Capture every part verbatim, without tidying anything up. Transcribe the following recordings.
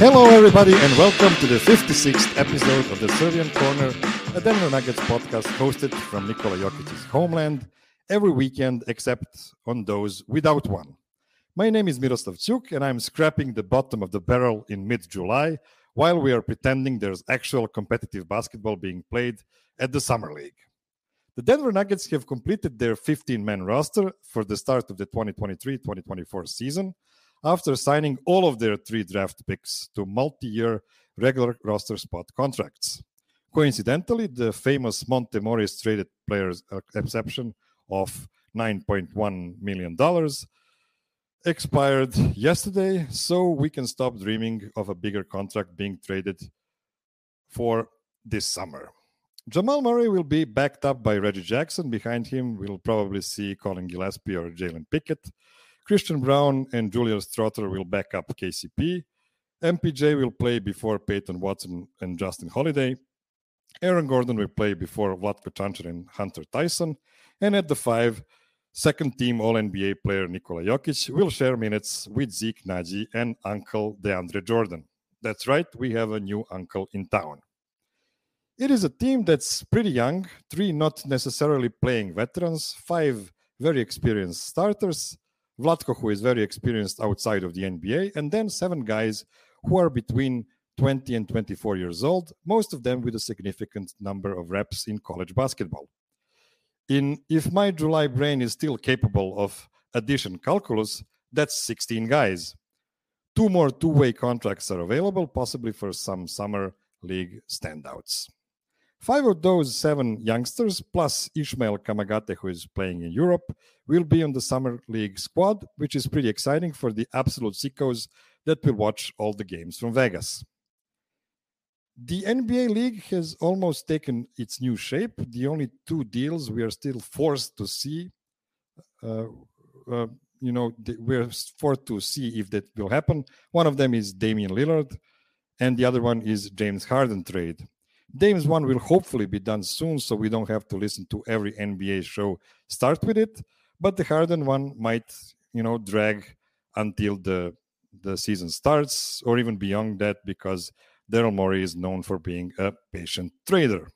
Hello, everybody, and welcome to the fifty-sixth episode of the Serbian Corner, a Denver Nuggets podcast hosted from Nikola Jokic's homeland every weekend except on those without one. My name is Miroslav Cuk, and I'm scrapping the bottom of the barrel in mid-July while we are pretending there's actual competitive basketball being played at the Summer League. The Denver Nuggets have completed their fifteen-man roster for the start of the twenty twenty-three twenty twenty-four season after signing all of their three draft picks to multi-year regular roster spot contracts. Coincidentally, the famous Monte Morris traded players exception of nine point one million dollars expired yesterday, so we can stop dreaming of a bigger contract being traded for this summer. Jamal Murray will be backed up by Reggie Jackson. Behind him, we'll probably see Colin Gillespie or Jalen Pickett. Christian Brown and Julius Strother will back up K C P. M P J will play before Peyton Watson and Justin Holiday. Aaron Gordon will play before Vlatko Čančar and Hunter Tyson. And at the five, second-team All-N B A player Nikola Jokic will share minutes with Zeke Naji and Uncle DeAndre Jordan. That's right, we have a new uncle in town. It is a team that's pretty young, three not necessarily playing veterans, five very experienced starters, Vlatko, who is very experienced outside of the N B A, and then seven guys who are between twenty and twenty-four years old, most of them with a significant number of reps in college basketball. In if my July brain is still capable of addition calculus, that's sixteen guys. Two more two-way contracts are available, possibly for some summer league standouts. Five of those seven youngsters, plus Ishmael Kamagate, who is playing in Europe, will be on the Summer League squad, which is pretty exciting for the absolute sickos that will watch all the games from Vegas. The N B A League has almost taken its new shape. The only two deals we are still forced to see, uh, uh, you know, we're forced to see if that will happen. One of them is Damian Lillard, and the other one is James Harden trade. Dame's one will hopefully be done soon, so we don't have to listen to every N B A show start with it. But the Harden one might, you know, drag until the the season starts or even beyond that, because Daryl Morey is known for being a patient trader.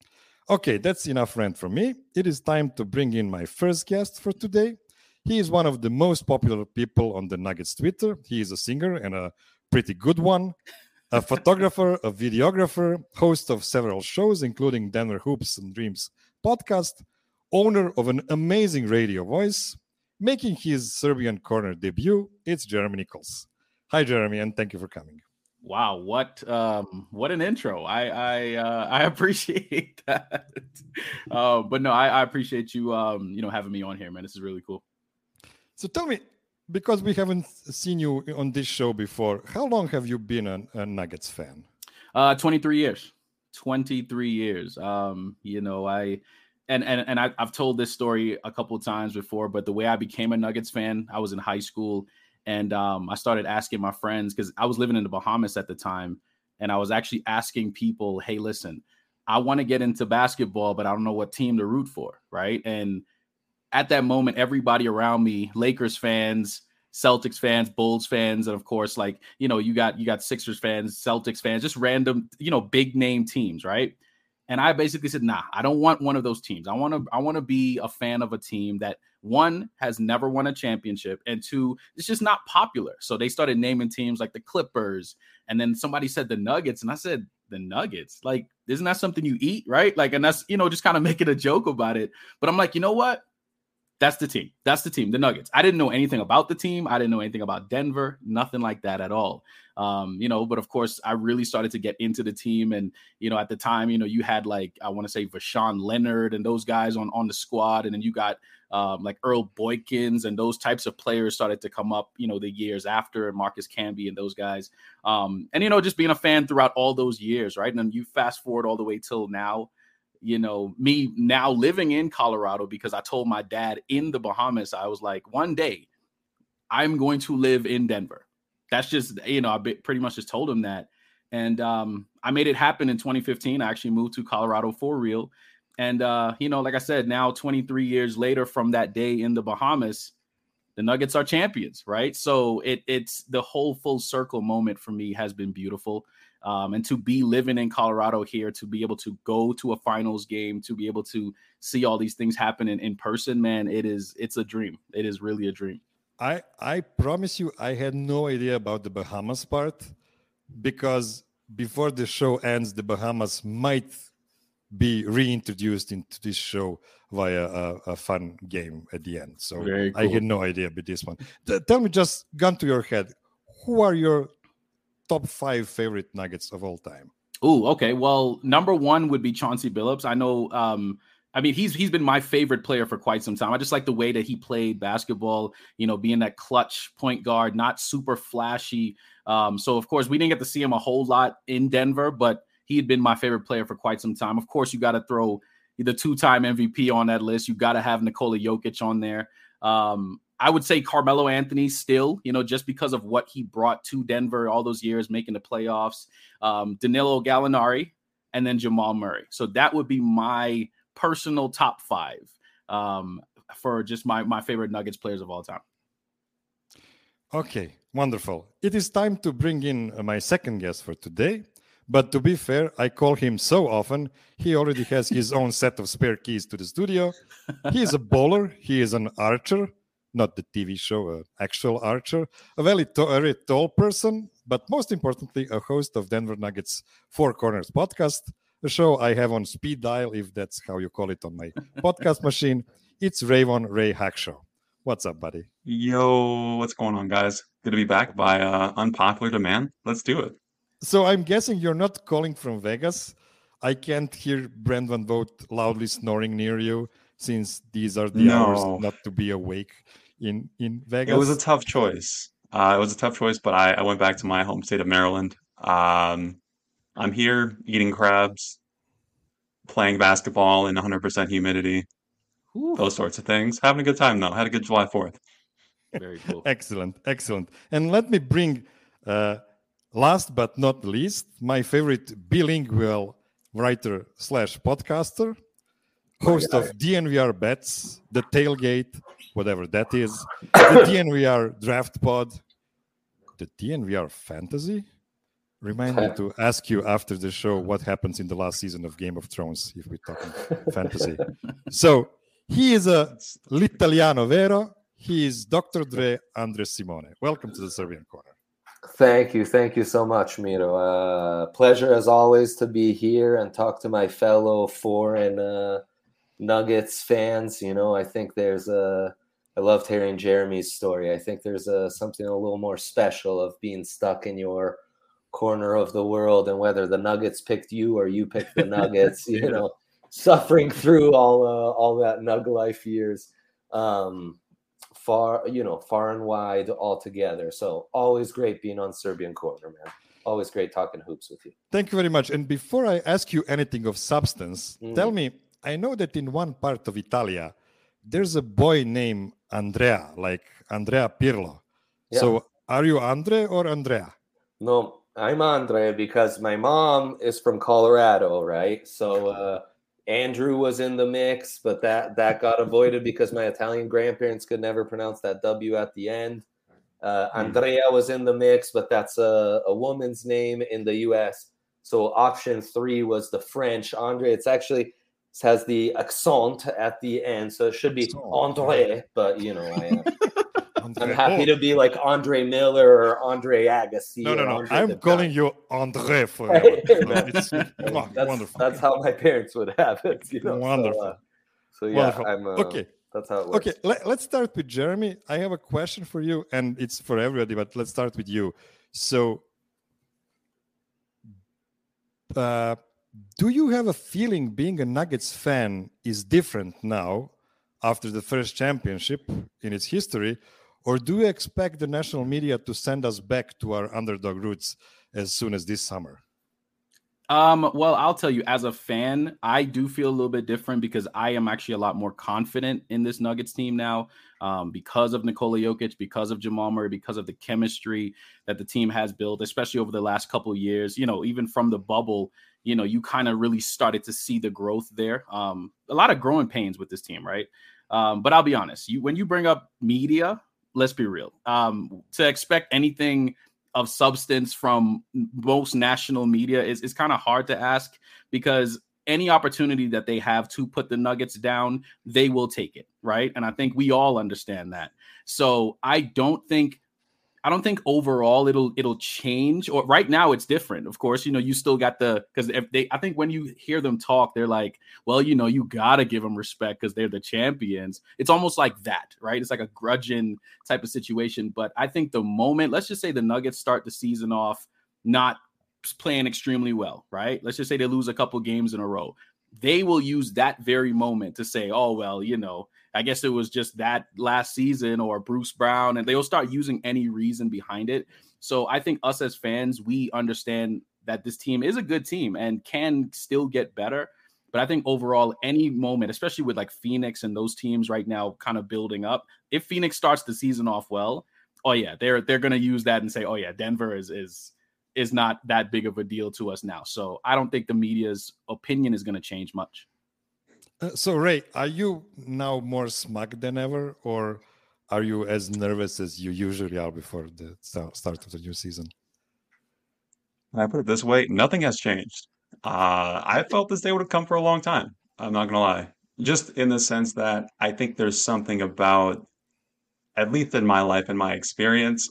Okay, that's enough rant from me. It is time to bring in my first guest for today. He is one of the most popular people on the Nuggets Twitter. He is a singer and a pretty good one. A photographer, a videographer, host of several shows, including Denver Hoops and Dreams podcast, owner of an amazing radio voice, making his Serbian Corner debut, it's Jeremy Nichols. Hi, Jeremy, and thank you for coming. Wow, what um, what an intro! I I uh, I appreciate that. uh, but no, I, I appreciate you um, you know having me on here, man. This is really cool. So tell me, because we haven't seen you on this show before, how long have you been a, a Nuggets fan? Uh, twenty-three years. twenty-three years. Um, you know, I and and and I, I've told this story a couple of times before, but the way I became a Nuggets fan, I was in high school, and um, I started asking my friends, because I was living in the Bahamas at the time, and I was actually asking people, "Hey, listen, I want to get into basketball, but I don't know what team to root for," right? And at that moment, everybody around me, Lakers fans, Celtics fans, Bulls fans, and of course, like, you know, you got you got Sixers fans, Celtics fans, just random, you know, big name teams, right? And I basically said, nah, I don't want one of those teams. I want to I want to be a fan of a team that, one, has never won a championship, and two, it's just not popular. So they started naming teams like the Clippers, and then somebody said the Nuggets, and I said, the Nuggets? Like, isn't that something you eat, right? Like, and that's, you know, just kind of making a joke about it. But I'm like, you know what? That's the team. That's the team, the Nuggets. I didn't know anything about the team. I didn't know anything about Denver, nothing like that at all. Um, you know, but of course, I really started to get into the team. And, you know, at the time, you know, you had like, I want to say Vashawn Leonard and those guys on, on the squad. And then you got um, like Earl Boykins and those types of players started to come up, you know, the years after, and Marcus Camby and those guys. Um, and, you know, just being a fan throughout all those years, right? And then you fast forward all the way till now. You know, me now living in Colorado, because I told my dad in the Bahamas, I was like, one day I'm going to live in Denver. That's just, you know, I pretty much just told him that. And um, I made it happen in twenty fifteen. I actually moved to Colorado for real. And, uh, you know, like I said, now twenty-three years later from that day in the Bahamas, the Nuggets are champions, right? So it it's the whole full circle moment for me has been beautiful. Um, and to be living in Colorado here, to be able to go to a finals game, to be able to see all these things happen in, in person, man, it is it's a dream. It is really a dream. I I promise you, I had no idea about the Bahamas part, because before the show ends, the Bahamas might be reintroduced into this show via a, a fun game at the end. So cool. I had no idea about this one. T- tell me, just gun to your head, who are your top five favorite Nuggets of all time? Oh, okay. Well, number one would be Chauncey Billups. I know. Um, I mean, he's he's been my favorite player for quite some time. I just like the way that he played basketball. You know, being that clutch point guard, not super flashy. Um, so of course, we didn't get to see him a whole lot in Denver, but he had been my favorite player for quite some time. Of course, you got to throw the two-time M V P on that list. You got to have Nikola Jokic on there. Um, I would say Carmelo Anthony still, you know, just because of what he brought to Denver all those years, making the playoffs. Um, Danilo Gallinari, and then Jamal Murray. So that would be my personal top five um, for just my, my favorite Nuggets players of all time. Okay, wonderful. It is time to bring in my second guest for today. But to be fair, I call him so often, he already has his own set of spare keys to the studio. He is a bowler. He is an archer, not the T V show, an actual archer, a very, to- very tall person, but most importantly, a host of Denver Nuggets Four Corners podcast, a show I have on speed dial, if that's how you call it on my podcast machine. It's Rayvon Ray Hackshaw. What's up, buddy? Yo, what's going on, guys? Good to be back by uh, unpopular demand. Let's do it. So I'm guessing you're not calling from Vegas. I can't hear Brent Van Vogt loudly snoring near you, since these are the No. hours not to be awake in, in Vegas. It was a tough choice. Uh, it was a tough choice, but I, I went back to my home state of Maryland. Um, I'm here eating crabs, playing basketball in one hundred percent humidity, Ooh. Those sorts of things. Having a good time, though. Had a good July fourth. Very cool. Excellent, excellent. And let me bring... Uh, Last but not least, my favorite bilingual writer slash podcaster, host of D N V R Bets, The Tailgate, whatever that is, the D N V R Draft Pod, the D N V R Fantasy. Remind me to ask you after the show what happens in the last season of Game of Thrones, if we're talking fantasy. So he is a l'italiano vero. He is Doctor Dre Andres Simone. Welcome to the Serbian Corner. Thank you. Thank you so much, Miro. Uh, pleasure as always to be here and talk to my fellow foreign uh, Nuggets fans. You know, I think there's a, I loved hearing Jeremy's story. I think there's a, something a little more special of being stuck in your corner of the world, and whether the Nuggets picked you or you picked the Nuggets, you know, suffering through all, uh, all that Nug life years. Um, Far, you know, far and wide all together. So always great being on Serbian Corner, man. Always great talking hoops with you. Thank you very much. And before I ask you anything of substance, Mm. tell me, I know that in one part of Italia, there's a boy named Andrea, like Andrea Pirlo. Yeah. So are you Andre or Andrea? No, I'm Andre because my mom is from Colorado, right? So uh, Andrew was in the mix, but that, that got avoided because my Italian grandparents could never pronounce that W at the end. Uh, Andrea was in the mix, but that's a, a woman's name in the U S. So option three was the French Andre. It's actually it has the accent at the end, so it should be Andre. But you know, I am. I'm happy to be like Andre Miller or Andre Agassi. No, no, no. Andre I'm the calling guy. you Andre forever. No, it's oh, that's, wonderful. That's how my parents would have it. You know? Wonderful. So, uh, so yeah, Wonderful. I'm. Uh, Okay. That's how it works. Okay, let, let's start with Jeremy. I have a question for you, and it's for everybody, but let's start with you. So, uh, do you have a feeling being a Nuggets fan is different now after the first championship in its history, or do you expect the national media to send us back to our underdog roots as soon as this summer? Um, well, I'll tell you, as a fan, I do feel a little bit different because I am actually a lot more confident in this Nuggets team now um, because of Nikola Jokic, because of Jamal Murray, because of the chemistry that the team has built, especially over the last couple of years. You know, even from the bubble, you know, you kind of really started to see the growth there. Um, a lot of growing pains with this team, right? Um, but I'll be honest, you when you bring up media, let's be real. Um, to expect anything of substance from most national media is, is kind of hard to ask, because any opportunity that they have to put the Nuggets down, they will take it, right? And I think we all understand that. So I don't think I don't think overall it'll it'll change. Or right now it's different. Of course, you know, you still got the, because if they, I think when you hear them talk, they're like, well, you know, you gotta give them respect because they're the champions. It's almost like that, right? It's like a grudging type of situation. But I think the moment, let's just say the Nuggets start the season off not playing extremely well, right? Let's just say they lose a couple games in a row. They will use that very moment to say, oh, well, you know, I guess it was just that last season, or Bruce Brown, and they'll start using any reason behind it. So I think us as fans, we understand that this team is a good team and can still get better. But I think overall, any moment, especially with like Phoenix and those teams right now kind of building up, if Phoenix starts the season off well, oh yeah, they're they're going to use that and say, oh yeah, Denver is is is not that big of a deal to us now. So I don't think the media's opinion is going to change much. Uh, so, Ray, are you now more smug than ever, or are you as nervous as you usually are before the start start of the new season? I put it this way, nothing has changed. Uh, I felt this day would have come for a long time. I'm not gonna lie. Just in the sense that I think there's something about, at least in my life and my experience,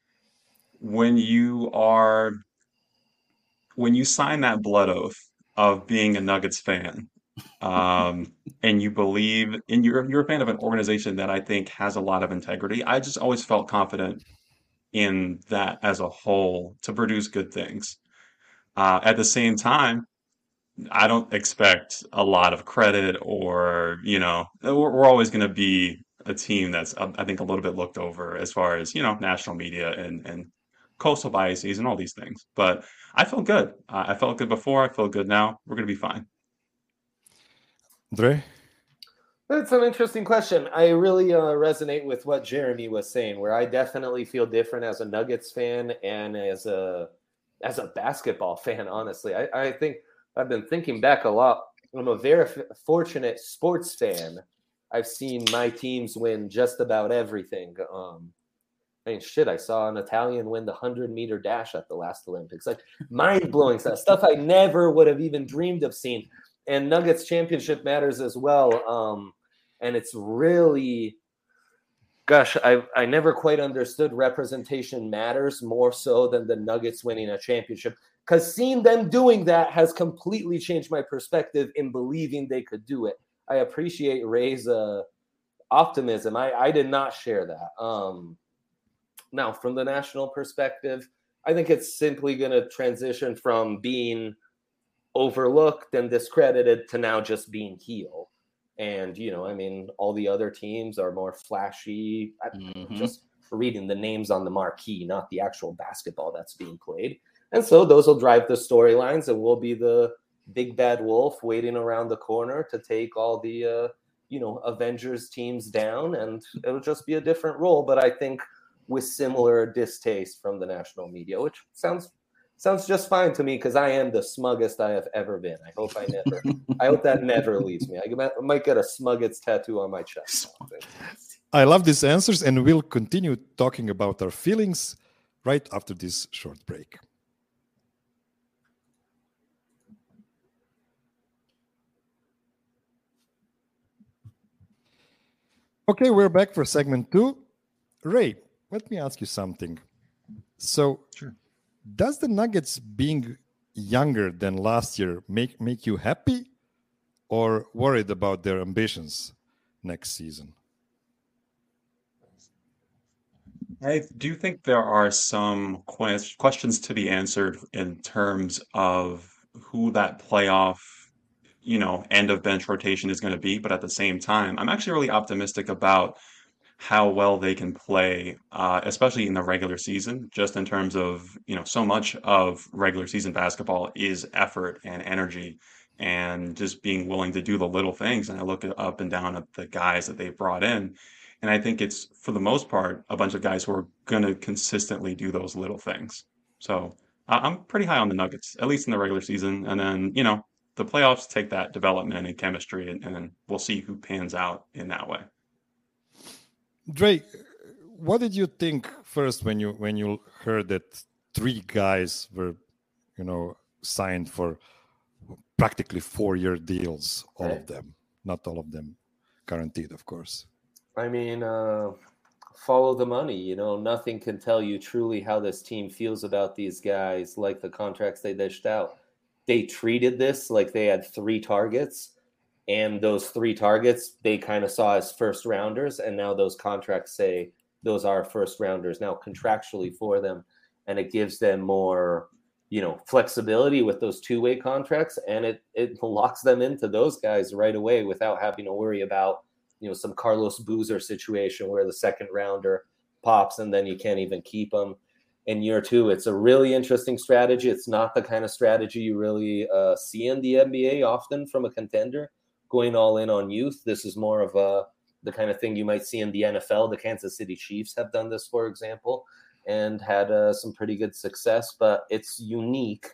when you are, when you sign that blood oath of being a Nuggets fan, um, and you believe in, you're you're a fan of an organization that I think has a lot of integrity. I just always felt confident in that as a whole to produce good things. Uh, at the same time, I don't expect a lot of credit, or, you know, we're, we're always going to be a team that's, uh, I think, a little bit looked over as far as, you know, national media and, and coastal biases and all these things. But I felt good. Uh, I felt good before. I feel good now. We're going to be fine. Dre? That's an interesting question. I really uh, resonate with what Jeremy was saying, where I definitely feel different as a Nuggets fan and as a as a basketball fan, honestly. I, I think I've been thinking back a lot. I'm a very f- fortunate sports fan. I've seen my teams win just about everything. Um, I mean, shit, I saw an Italian win the hundred-meter dash at the last Olympics. Like, mind-blowing stuff, stuff I never would have even dreamed of seeing. And Nuggets championship matters as well. Um, and it's really, gosh, I I never quite understood representation matters more so than the Nuggets winning a championship. Because seeing them doing that has completely changed my perspective in believing they could do it. I appreciate Ray's uh, optimism. I, I did not share that. Um, now, from the national perspective, I think it's simply going to transition from being overlooked and discredited to now just being heel. And, you know, I mean, all the other teams are more flashy. Mm-hmm. Just reading the names on the marquee, not the actual basketball that's being played. And so those will drive the storylines, and we'll be the big bad wolf waiting around the corner to take all the, uh, you know, Avengers teams down. And it'll just be a different role. But I think with similar distaste from the national media, which sounds Sounds just fine to me, because I am the smuggest I have ever been. I hope I never, I hope that never leaves me. I might get a smuggest tattoo on my chest. I love these answers, and we'll continue talking about our feelings right after this short break. Okay, we're back for segment two. Ray, let me ask you something. So, sure. Does the Nuggets being younger than last year make, make you happy or worried about their ambitions next season? I do think there are some que- questions to be answered in terms of who that playoff, you know, end of bench rotation is going to be. But at the same time, I'm actually really optimistic about how well they can play, uh, especially in the regular season, just in terms of, you know, so much of regular season basketball is effort and energy and just being willing to do the little things. And I look up and down at the guys that they've brought in, and I think it's, for the most part, a bunch of guys who are going to consistently do those little things. So uh, I'm pretty high on the Nuggets, at least in the regular season. And then, you know, the playoffs take that development and chemistry, and, and then we'll see who pans out in that way. Dre, what did you think first when you when you heard that three guys were, you know, signed for practically four-year deals, all Right. of them, not all of them guaranteed, of course. I mean, uh, follow the money. You know, nothing can tell you truly how this team feels about these guys like the contracts they dished out. They treated this like they had three targets, and those three targets they kind of saw as first rounders, and now those contracts say those are first rounders now contractually for them, and it gives them more, you know, flexibility with those two-way contracts, and it it locks them into those guys right away without having to worry about, you know, some Carlos Boozer situation where the second rounder pops and then you can't even keep them in year two. It's a really interesting strategy. It's not the kind of strategy you really uh, see in the N B A often from a contender going all in on youth. This is more of a the kind of thing you might see in the N F L. The Kansas City Chiefs have done this, for example, and had uh, some pretty good success, but it's unique.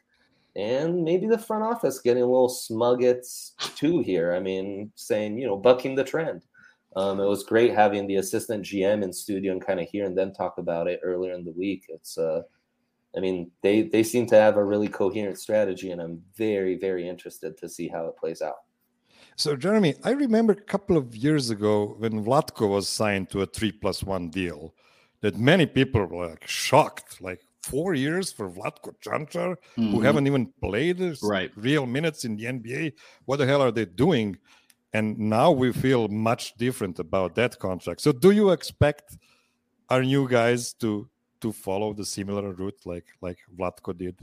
And maybe the front office getting a little smug at too here. I mean, saying, you know, bucking the trend. Um, it was great having the assistant G M in studio and kind of hearing them talk about it earlier in the week. It's, uh, I mean, they they seem to have a really coherent strategy, and I'm very, very interested to see how it plays out. So, Jeremy, I remember a couple of years ago when Vlatko was signed to a three plus one deal, that many people were like shocked, like four years for Vlatko Čančar, Mhm. who haven't even played Right. real minutes in the N B A. What the hell are they doing? And now we feel much different about that contract. So do you expect our new guys to to follow the similar route like like Vlatko did?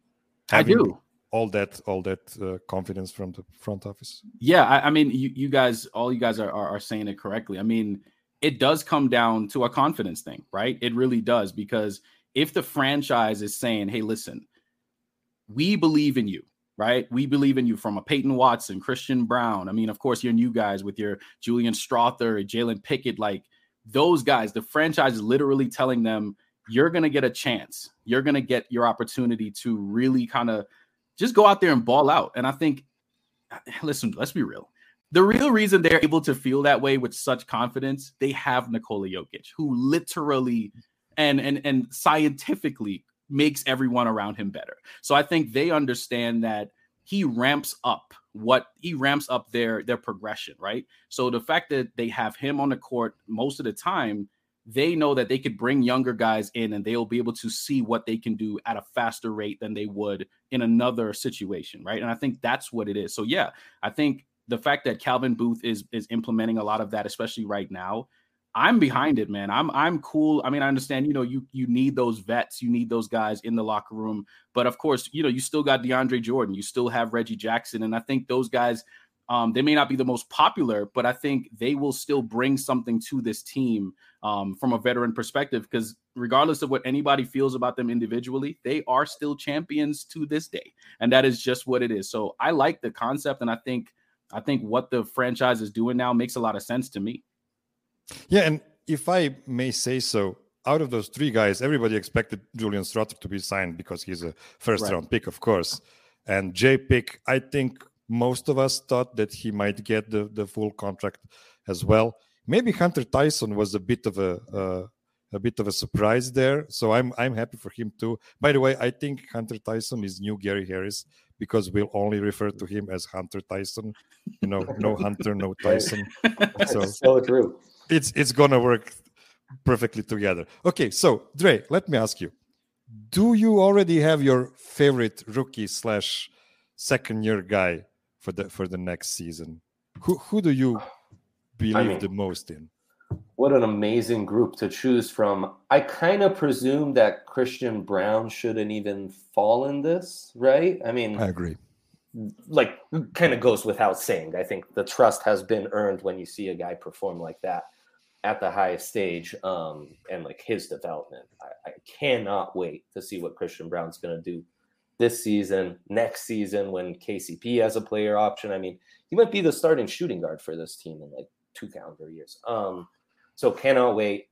I Having do. all that all that uh, confidence from the front office. Yeah, I, I mean, you, you guys, all you guys are, are are saying it correctly. I mean, it does come down to a confidence thing, right? It really does, because if the franchise is saying, "Hey, listen, we believe in you," right? We believe in you, from a Peyton Watson, Christian Brown. I mean, of course, your new guys with your Julian Strother, Jalen Pickett, like those guys, the franchise is literally telling them, you're going to get a chance. You're going to get your opportunity to really kind of just go out there and ball out. And I think, listen, let's be real. The real reason they're able to feel that way with such confidence, they have Nikola Jokic, who literally and and and scientifically makes everyone around him better. So I think they understand that he ramps up what he ramps up their their progression, right? So the fact that they have him on the court most of the time, they know that they could bring younger guys in and they'll be able to see what they can do at a faster rate than they would in another situation, right? And I think that's what it is. So yeah, I think the fact that Calvin Booth is is implementing a lot of that, especially right now, I'm behind it, man. I'm I'm cool. I mean, I understand, you know, you you need those vets, you need those guys in the locker room, but of course, you know, you still got DeAndre Jordan, you still have Reggie Jackson, and I think those guys, um, they may not be the most popular, but I think they will still bring something to this team um, from a veteran perspective, because regardless of what anybody feels about them individually, they are still champions to this day, and that is just what it is. So I like the concept, and I think I think what the franchise is doing now makes a lot of sense to me. Yeah, and if I may say so, out of those three guys, everybody expected Julian Strother to be signed because he's a first-round Right. pick, of course. And J Pick, I think most of us thought that he might get the, the full contract as well. Maybe Hunter Tyson was a bit of a uh, a bit of a surprise there, so I'm I'm happy for him too. By the way, I think Hunter Tyson is new Gary Harris, because we'll only refer to him as Hunter Tyson. You know, no Hunter, no Tyson. So That's so true. it's it's gonna work perfectly together. Okay, so Dre, let me ask you: do you already have your favorite rookie slash second year guy for the for the next season? Who who do you believe I mean, the most in? What an amazing group to choose from. I kind of presume that Christian Brown shouldn't even fall in this, right? I mean, I agree. like, kind of goes without saying. I think the trust has been earned when you see a guy perform like that at the highest stage, um, and like his development. I, I cannot wait to see what Christian Brown's going to do this season, next season, when K C P has a player option. I mean, he might be the starting shooting guard for this team in like two calendar years. Um, so cannot wait.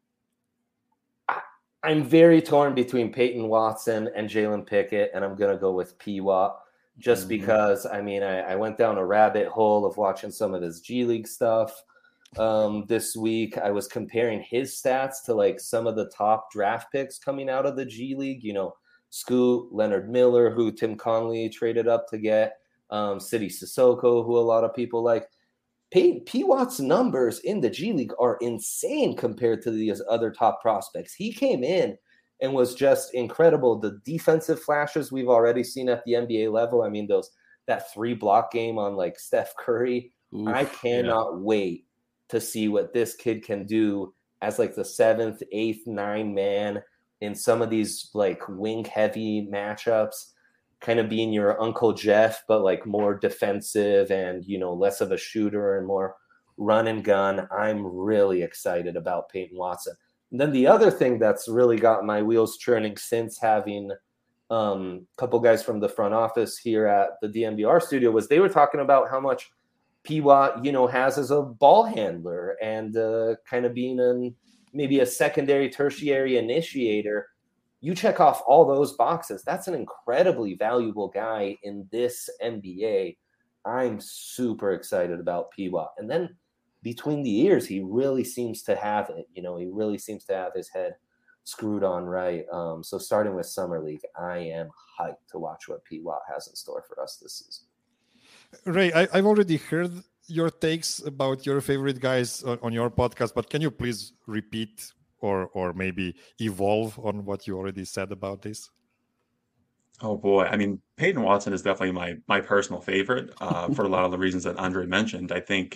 I, I'm very torn between Peyton Watson and Jalen Pickett, and I'm going to go with P-Watt just Mhm. because, I mean, I, I went down a rabbit hole of watching some of his G League stuff. um, this week. I was comparing his stats to like some of the top draft picks coming out of the G League. You know, Scoot, Leonard Miller, who Tim Conley traded up to get, um, City Sissoko, who a lot of people like. P. P. Watt's numbers in the G League are insane compared to these other top prospects. He came in and was just incredible. The defensive flashes we've already seen at the N B A level. I mean, those that three block game on like Steph Curry. Oof, I cannot yeah. wait to see what this kid can do as like the seventh, eighth, nine man in some of these like wing heavy matchups. Kind of being your Uncle Jeff, but like more defensive and, you know, less of a shooter and more run and gun. I'm really excited about Peyton Watson. And then the other thing that's really got my wheels churning since having um, a couple guys from the front office here at the D N V R studio was they were talking about how much P. Watt, you know, has as a ball handler and uh, kind of being an, maybe a secondary, tertiary initiator. You check off all those boxes. That's an incredibly valuable guy in this N B A. I'm super excited about P. Watt. And then between the ears, he really seems to have it. You know, he really seems to have his head screwed on right. Um, so starting with Summer League, I am hyped to watch what P. Watt has in store for us this season. Ray, I, I've already heard your takes about your favorite guys on, on your podcast, but can you please repeat or or maybe evolve on what you already said about this? Oh boy, I mean, Peyton Watson is definitely my my personal favorite uh, for a lot of the reasons that Andre mentioned. I think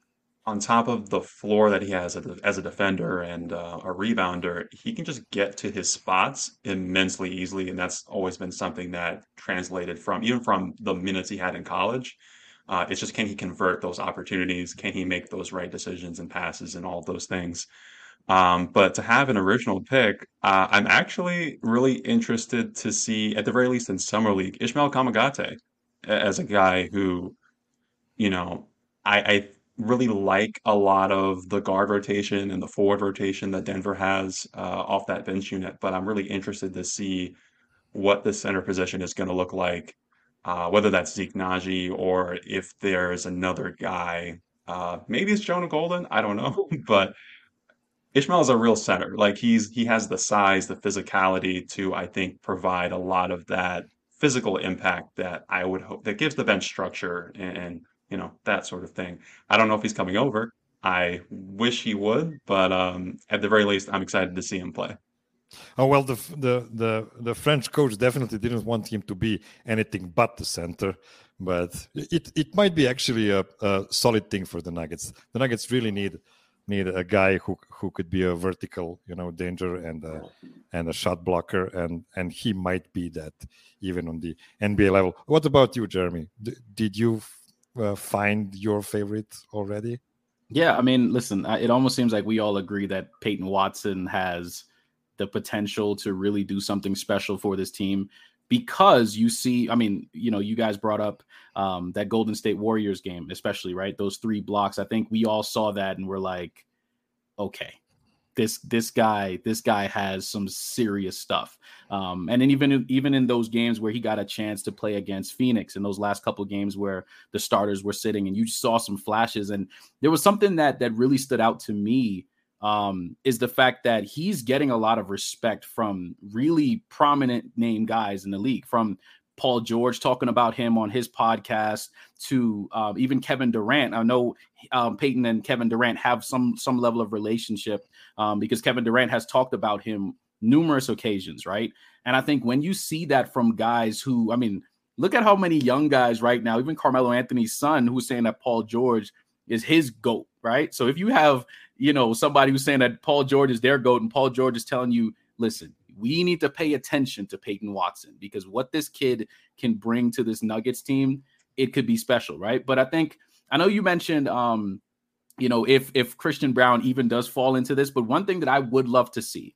on top of the floor that he has as a, as a defender and uh, a rebounder, he can just get to his spots immensely easily, and that's always been something that translated from even from the minutes he had in college. Uh, it's just, can he convert those opportunities? Can he make those right decisions and passes and all of those things? Um, but to have an original pick, uh, I'm actually really interested to see, at the very least in Summer League, Ismael Kamagate as a guy who, you know, I, I really like a lot of the guard rotation and the forward rotation that Denver has uh, off that bench unit. But I'm really interested to see what the center position is going to look like, uh, whether that's Zeke Naji or if there's another guy. Uh, maybe it's Jonah Golden. I don't know, but Ishmael is a real center. Like he's he has the size, the physicality to, I think, provide a lot of that physical impact that I would hope that gives the bench structure and, and you know that sort of thing. I don't know if he's coming over. I wish he would, but um, at the very least, I'm excited to see him play. Oh well, the the the the French coach definitely didn't want him to be anything but the center, but it it might be actually a, a solid thing for the Nuggets. The Nuggets really need. need a guy who who could be a vertical, you know, danger and a, and a shot blocker, and and he might be that even on the N B A level. What about you, Jeremy? D- did you uh, find your favorite already? Yeah, I mean, listen, it almost seems like we all agree that Peyton Watson has the potential to really do something special for this team. Because you see, I mean, you know, you guys brought up um, that Golden State Warriors game, especially, right? Those three blocks. I think we all saw that and we're like, okay, this this guy, this guy has some serious stuff. Um, and then even even in those games where he got a chance to play against Phoenix, in those last couple of games where the starters were sitting, and you saw some flashes, and there was something that that really stood out to me. Um, is the fact that he's getting a lot of respect from really prominent name guys in the league, from Paul George talking about him on his podcast to uh, even Kevin Durant. I know um, Peyton and Kevin Durant have some some level of relationship um, because Kevin Durant has talked about him numerous occasions, right? And I think when you see that from guys who, I mean, look at how many young guys right now, even Carmelo Anthony's son, who's saying that Paul George is his GOAT, right? So if you have, you know, somebody who's saying that Paul George is their GOAT and Paul George is telling you, listen, we need to pay attention to Peyton Watson because what this kid can bring to this Nuggets team, it could be special, right? But I think, I know you mentioned, um, you know, if if Christian Braun even does fall into this, but one thing that I would love to see,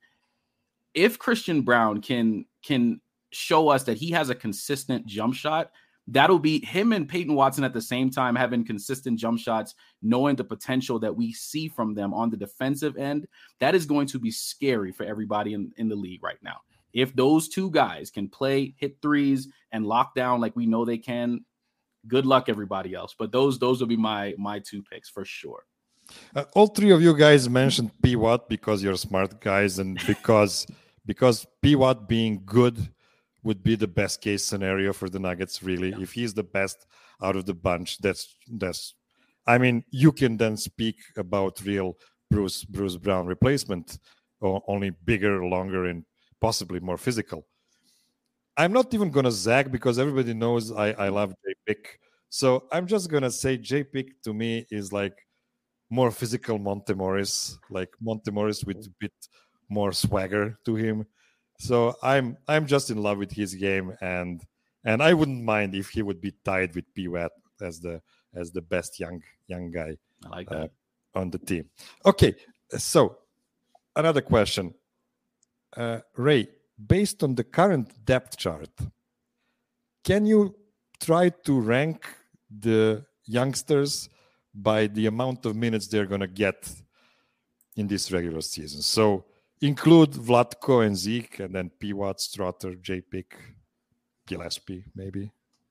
if Christian Braun can can show us that he has a consistent jump shot, that'll be him and Peyton Watson at the same time having consistent jump shots, knowing the potential that we see from them on the defensive end. That is going to be scary for everybody in, in the league right now. If those two guys can play, hit threes, and lock down like we know they can, good luck everybody else. But those those will be my my two picks for sure. Uh, all three of you guys mentioned P. Watt because you're smart guys, and because because P. Watt being good would be the best case scenario for the Nuggets. Really, yeah. If he's the best out of the bunch, that's that's. I mean, you can then speak about real Bruce Bruce Brown replacement, or only bigger, longer, and possibly more physical. I'm not even gonna zag because everybody knows I I love J-Pick, so I'm just gonna say J-Pick to me is like more physical Monte Morris, like Monte Morris with a bit more swagger to him. So I'm I'm just in love with his game, and and I wouldn't mind if he would be tied with P. Watt as the as the best young young guy I like that. Uh, on the team. Okay, so another question, uh, Ray. Based on the current depth chart, can you try to rank the youngsters by the amount of minutes they're going to get in this regular season? So include Vlatko and Zeke, and then P. Watt, Strotter, J-Pick, Gillespie, maybe.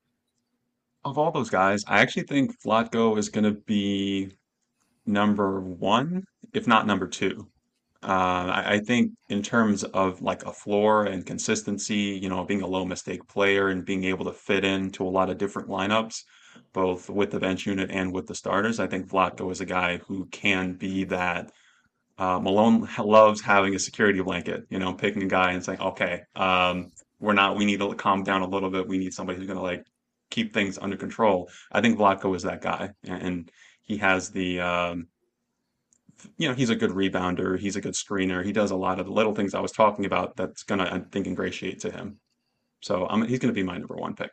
Of all those guys, I actually think Vlatko is going to be number one, if not number two. Uh, I, I think in terms of like a floor and consistency, you know, being a low mistake player and being able to fit into a lot of different lineups, both with the bench unit and with the starters, I think Vlatko is a guy who can be that. Uh, Malone loves having a security blanket, you know, picking a guy and saying, okay, um, we're not, we need to calm down a little bit. We need somebody who's going to like keep things under control. I think Vlatko is that guy, and, and he has the, um, you know, he's a good rebounder. He's a good screener. He does a lot of the little things I was talking about that's going to, I think, ingratiate to him. So um, he's going to be my number one pick.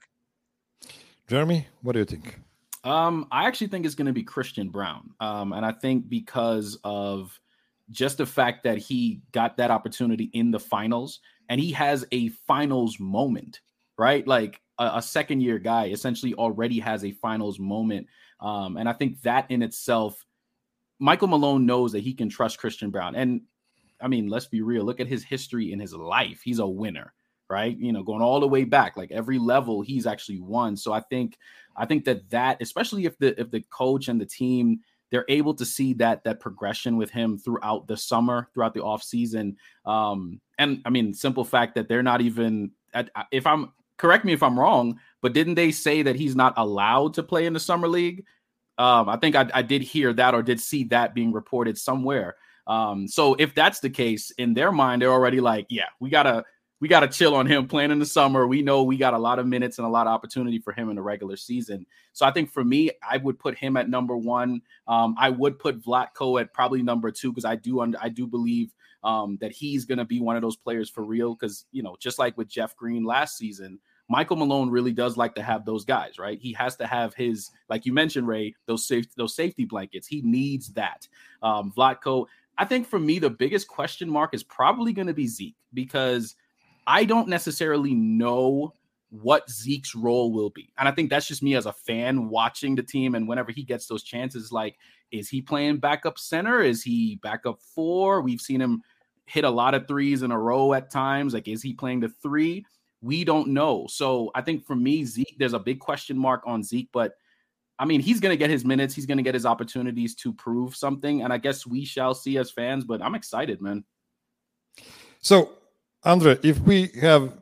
Jeremy, what do you think? Um, I actually think it's going to be Christian Braun. Um, and I think because of just the fact that he got that opportunity in the finals and he has a finals moment, right? Like a, a second year guy essentially already has a finals moment. Um, and I think that in itself, Michael Malone knows that he can trust Christian Braun. And I mean, let's be real. Look at his history in his life. He's a winner, right? You know, going all the way back, like every level he's actually won. So I think, I think that that, especially if the, if the coach and the team, they're able to see that, that progression with him throughout the summer, throughout the off season. Um, and I mean, simple fact that they're not even at, if I'm correct me if I'm wrong, but didn't they say that he's not allowed to play in the summer league? Um, I think I, I did hear that or did see that being reported somewhere. Um, so if that's the case, in their mind, they're already like, yeah, we gotta we gotta chill on him playing in the summer. We know we got a lot of minutes and a lot of opportunity for him in the regular season. So I think for me, I would put him at number one. Um, I would put Vlatko at probably number two because I do I do believe um, that he's gonna be one of those players for real. Because you know, just like with Jeff Green last season, Michael Malone really does like to have those guys, right? He has to have his, like you mentioned, Ray, those safe, those safety blankets. He needs that. Um, Vlatko, I think for me, the biggest question mark is probably going to be Zeke because I don't necessarily know what Zeke's role will be. And I think that's just me as a fan watching the team. And whenever he gets those chances, like, is he playing backup center? Is he backup four? We've seen him hit a lot of threes in a row at times. Like, is he playing the three? We don't know. So I think for me, Zeke, there's a big question mark on Zeke, but I mean, he's going to get his minutes. He's going to get his opportunities to prove something. And I guess we shall see as fans, but I'm excited, man. So, Andre, if we have,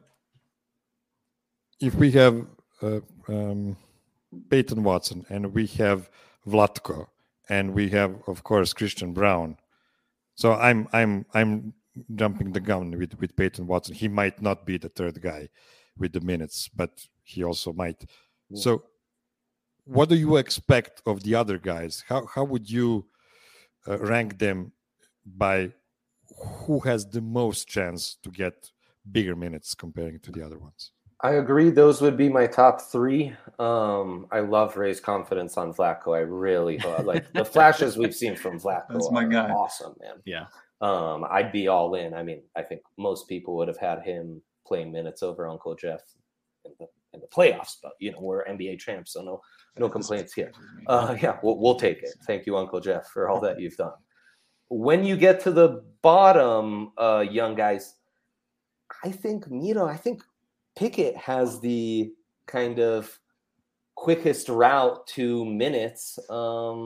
if we have uh, um, Peyton Watson and we have Vlatko and we have, of course, Christian Braun. So I'm, I'm, I'm, jumping the gun with, with Peyton Watson. He might not be the third guy with the minutes, but he also might. Yeah. So what do you expect of the other guys? How how would you uh, rank them by who has the most chance to get bigger minutes comparing to the other ones? I agree. Those would be my top three. Um, I love Ray's confidence on Vlatko. I really like the flashes we've seen from Vlatko. That's my guy. Awesome, man. Yeah. Um, I'd be all in. I mean, I think most people would have had him playing minutes over Uncle Jeff in the in the playoffs, but you know, we're N B A champs, so no no complaints here. Uh, yeah, we'll, we'll take it. Thank you, Uncle Jeff, for all that you've done. When you get to the bottom, uh, young guys, I think Miro, I think Pickett has the kind of quickest route to minutes. Um,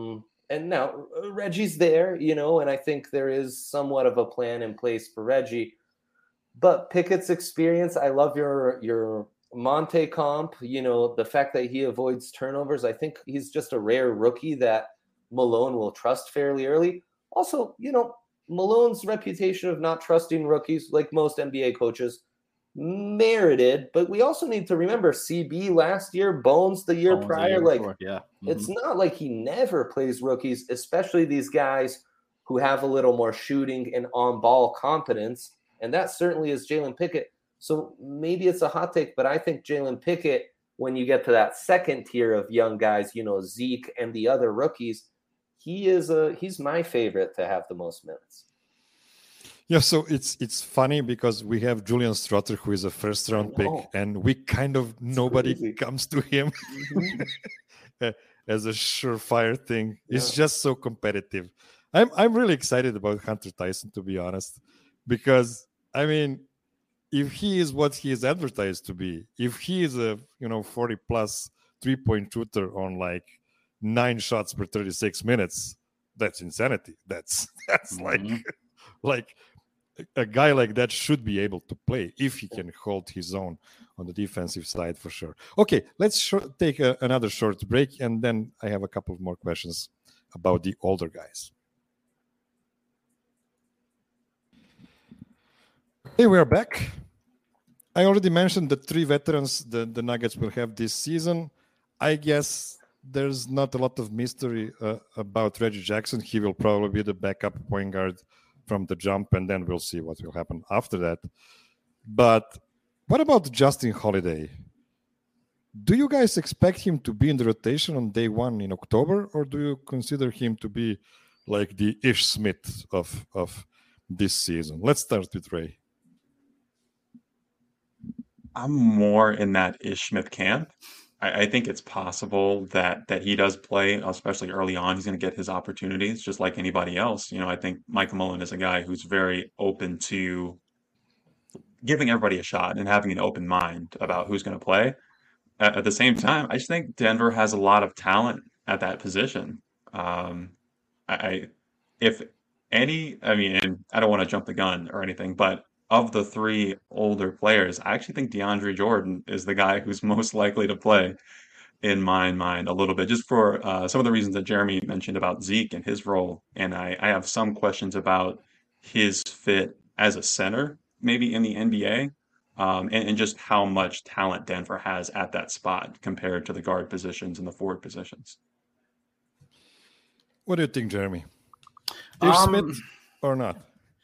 and now Reggie's there, you know, and I think there is somewhat of a plan in place for Reggie. But Pickett's experience, I love your your Monte comp, you know, the fact that he avoids turnovers. I think he's just a rare rookie that Malone will trust fairly early. Also, you know, Malone's reputation of not trusting rookies, like most N B A coaches, merited. But we also need to remember C B last year, Bones the year Bones the prior. year like, before, yeah. Mm-hmm. It's not like he never plays rookies, especially these guys who have a little more shooting and on-ball competence. And that certainly is Jalen Pickett. So maybe it's a hot take, but I think Jalen Pickett, when you get to that second tier of young guys, you know, Zeke and the other rookies, he is a he's my favorite to have the most minutes. Yeah, so it's it's funny because we have Julian Strother, who is a first round pick, and we kind of nobody crazy. comes to him mm-hmm. as a surefire thing. Yeah. It's just so competitive. I'm I'm really excited about Hunter Tyson, to be honest, because I mean, if he is what he is advertised to be, if he is a you know forty plus three point shooter on like nine shots per thirty-six minutes, that's insanity. That's that's mm-hmm. like like a guy like that should be able to play if he can hold his own on the defensive side for sure. Okay, let's sh- take a, another short break, and then I have a couple of more questions about the older guys. Hey, we're back. I already mentioned the three veterans the, the Nuggets will have this season. I guess there's not a lot of mystery uh, about Reggie Jackson. He will probably be the backup point guard from the jump, and then we'll see what will happen after that. But what about Justin Holiday? Do you guys expect him to be in the rotation on day one in October, or do you consider him to be like the Ish Smith of, of this season? Let's start with Ray. I'm more in that Ish Smith camp. I, I think it's possible that that he does play, especially early on. He's going to get his opportunities just like anybody else. You know, I think Michael Malone is a guy who's very open to giving everybody a shot and having an open mind about who's going to play. At, at the same time, I just think Denver has a lot of talent at that position. Um, I, I if any, I mean, and I don't want to jump the gun or anything, but of the three older players, I actually think DeAndre Jordan is the guy who's most likely to play in my mind a little bit, just for uh, some of the reasons that Jeremy mentioned about Zeke and his role. And I, I have some questions about his fit as a center, maybe in the N B A, um, and, and just how much talent Denver has at that spot compared to the guard positions and the forward positions. What do you think, Jeremy? Ish um, Smith or not?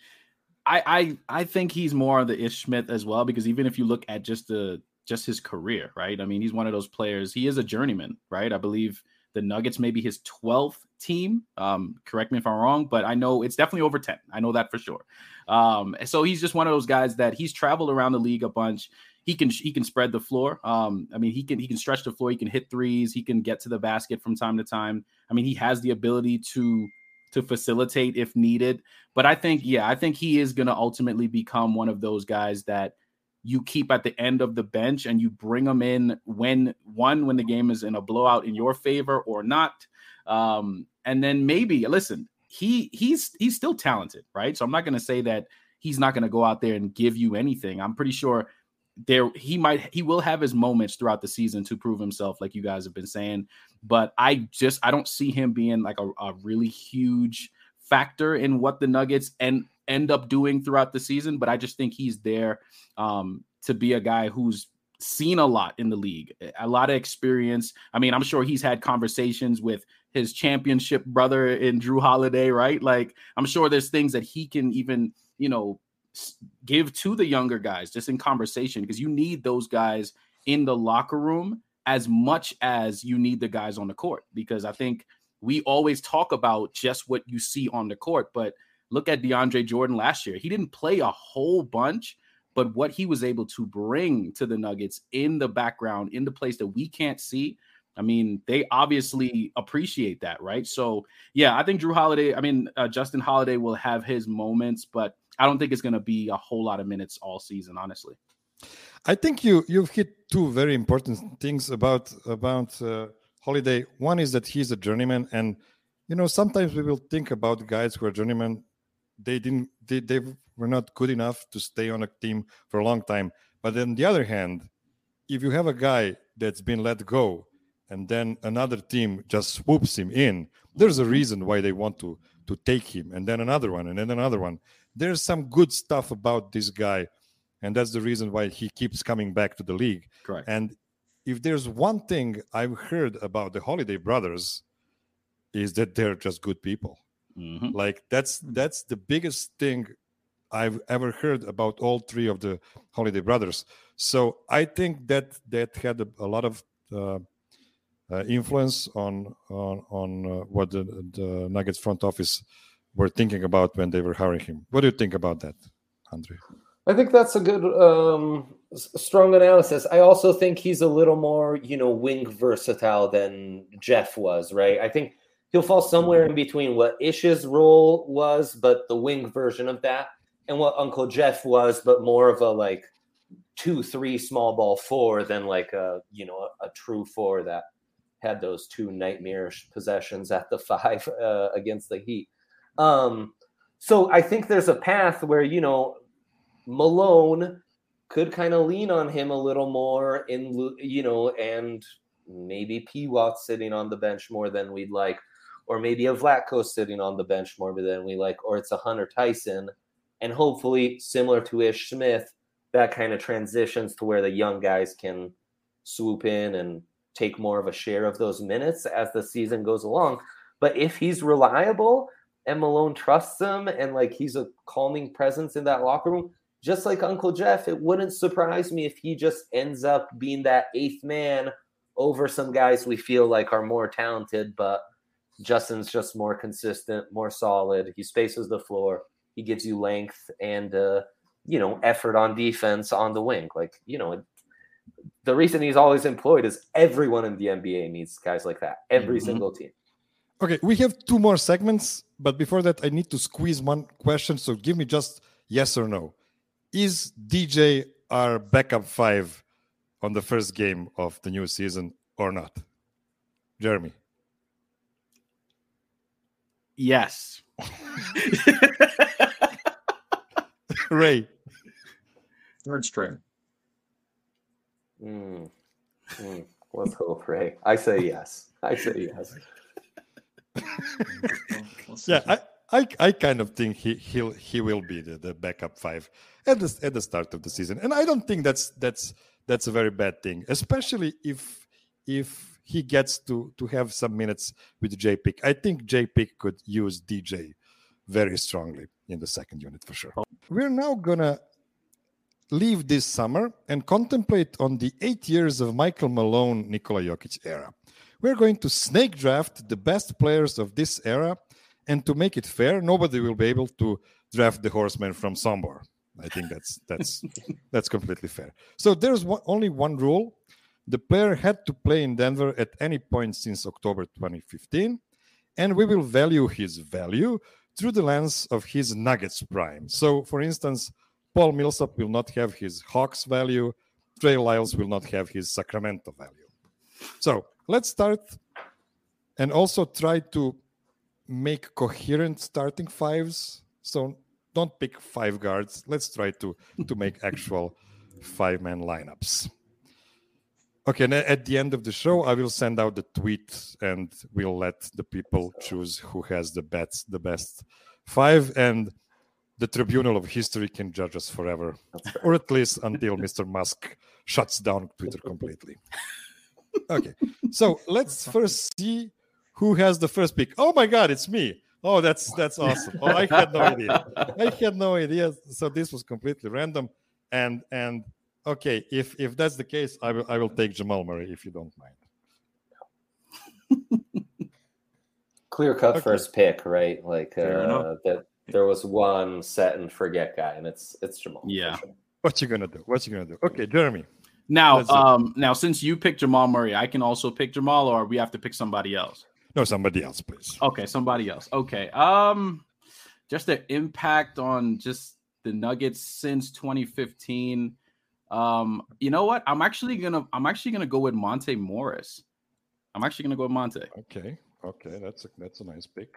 I, I I think he's more of the Ish Smith as well, because even if you look at just the just his career, right? I mean, he's one of those players. He is a journeyman, right? I believe the Nuggets may be his twelfth team. Um, correct me if I'm wrong, but I know it's definitely over ten. I know that for sure. Um, so he's just one of those guys that he's traveled around the league a bunch. He can he can spread the floor. Um, I mean, he can he can stretch the floor. He can hit threes. He can get to the basket from time to time. I mean, he has the ability to. to facilitate if needed. But I think, yeah, I think he is going to ultimately become one of those guys that you keep at the end of the bench and you bring them in when one, when the game is in a blowout in your favor or not. Um, and then maybe, listen, he he's, he's still talented, right? So I'm not going to say that he's not going to go out there and give you anything. I'm pretty sure there he might he will have his moments throughout the season to prove himself, like you guys have been saying, but I just I don't see him being like a, a really huge factor in what the Nuggets end end up doing throughout the season. But I just think he's there um to be a guy who's seen a lot in the league, a lot of experience. I mean, I'm sure he's had conversations with his championship brother in Drew Holiday, right? Like, I'm sure there's things that he can even, you know, give to the younger guys just in conversation, because you need those guys in the locker room as much as you need the guys on the court, because I think we always talk about just what you see on the court, but look at DeAndre Jordan last year. He didn't play a whole bunch, but what he was able to bring to the Nuggets in the background, in the place that we can't see, I mean, they obviously appreciate that, right? So, yeah, I think Drew Holiday, I mean, uh, Justin Holiday will have his moments, but I don't think it's going to be a whole lot of minutes all season, honestly. I think you, you've hit two very important things about, about uh, Holiday. One is that he's a journeyman, and you know, sometimes we will think about guys who are journeymen. They didn't, they, they were not good enough to stay on a team for a long time. But on the other hand, if you have a guy that's been let go and then another team just swoops him in, there's a reason why they want to to take him, and then another one, and then another one. There's some good stuff about this guy, and that's the reason why he keeps coming back to the league. Correct. And if there's one thing I've heard about the Holiday brothers, is that they're just good people. Mm-hmm. Like that's that's the biggest thing I've ever heard about all three of the Holiday brothers. So I think that that had a, a lot of uh, uh, influence on on, on uh, what the, the Nuggets front office were thinking about when they were hiring him. What do you think about that, Andre? I think that's a good, um, strong analysis. I also think he's a little more, you know, wing versatile than Jeff was, right? I think he'll fall somewhere in between what Ish's role was, but the wing version of that, and what Uncle Jeff was, but more of a like two, three small ball four than like a, you know, a, a true four that had those two nightmarish possessions at the five uh, against the Heat. Um, so I think there's a path where, you know, Malone could kind of lean on him a little more in, you know, and maybe P. Watt sitting on the bench more than we'd like, or maybe a Vlatko sitting on the bench more than we like, or it's a Hunter Tyson. And hopefully, similar to Ish Smith, that kind of transitions to where the young guys can swoop in and take more of a share of those minutes as the season goes along. But if he's reliable and Malone trusts him and like he's a calming presence in that locker room, just like Uncle Jeff, it wouldn't surprise me if he just ends up being that eighth man over some guys we feel like are more talented, but Justin's just more consistent, more solid. He spaces the floor. He gives you length and, uh, you know, effort on defense on the wing. Like, you know, the reason he's always employed is everyone in the N B A needs guys like that. Every mm-hmm. single team. Okay, we have two more segments, but before that, I need to squeeze one question. So give me just yes or no. Is D J our backup five on the first game of the new season or not? Jeremy? Yes. Ray? Third string. Mm. Mm. Let's hope, Ray. I say yes. I say yes. yeah, I, I I kind of think he he'll he will be the, the backup five at the at the start of the season, and I don't think that's that's that's a very bad thing, especially if if he gets to to have some minutes with J Pick. I think J Pick could use D J very strongly in the second unit for sure. We're now gonna leave this summer and contemplate on the eight years of Michael Malone, Nikola Jokic era. We're going to snake draft the best players of this era, and to make it fair, nobody will be able to draft the horseman from Sombor. I think that's that's that's completely fair. So there's one, only one rule. The player had to play in Denver at any point since October twenty fifteen, and we will value his value through the lens of his Nuggets prime. So, for instance, Paul Millsap will not have his Hawks value. Trey Lyles will not have his Sacramento value. So let's start and also try to make coherent starting fives. So don't pick five guards. Let's try to, to make actual five-man lineups. Okay, and at the end of the show, I will send out the tweet and we'll let the people choose who has the best, the best five. And the Tribunal of History can judge us forever, or at least until Mister Musk shuts down Twitter completely. Okay, so let's first see who has the first pick. Oh my God, it's me. Oh, that's that's awesome. Oh, I had no idea. I had no idea. So this was completely random. And and okay, if if that's the case, I will I will take Jamal Murray if you don't mind. Clear cut Okay. first pick, right? Like Fair uh, enough. that. There was one set and forget guy, and it's it's Jamal. for Yeah. sure. What you gonna do? What you gonna do? Okay, Jeremy. Now, Let's do it. um, now since you picked Jamal Murray, I can also pick Jamal, or we have to pick somebody else. No, somebody else, please. Okay, somebody else. Okay. Um, just the impact on just the Nuggets since twenty fifteen. Um, you know what? I'm actually gonna I'm actually gonna go with Monte Morris. I'm actually gonna go with Monte. Okay. Okay, that's a that's a nice pick.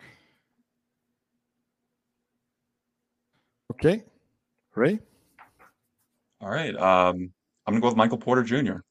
Okay, Ray. All right. Um, I'm gonna go with Michael Porter Junior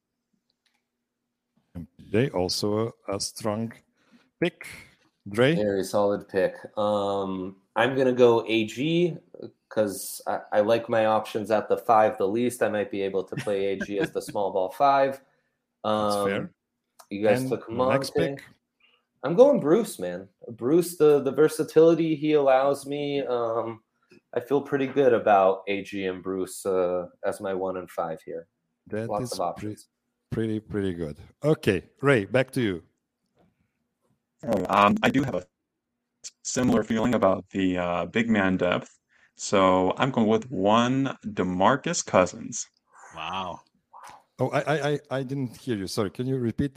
And P J also a, a strong pick. Dre. Very solid pick. Um, I'm gonna go A G because I, I like my options at the five the least. I might be able to play A G as the small ball five. Um, That's fair. You guys And took your next Monte. pick. I'm going Bruce, man. Bruce, the the versatility he allows me. Um, I feel pretty good about A G and Bruce uh, as my one and five here. That Lots is of options. Pretty, pretty good. Okay, Ray, back to you. Um, I do have a similar feeling about the uh, big man depth, so I'm going with one DeMarcus Cousins. Wow. Oh, I, I, I, I didn't hear you. Sorry. Can you repeat?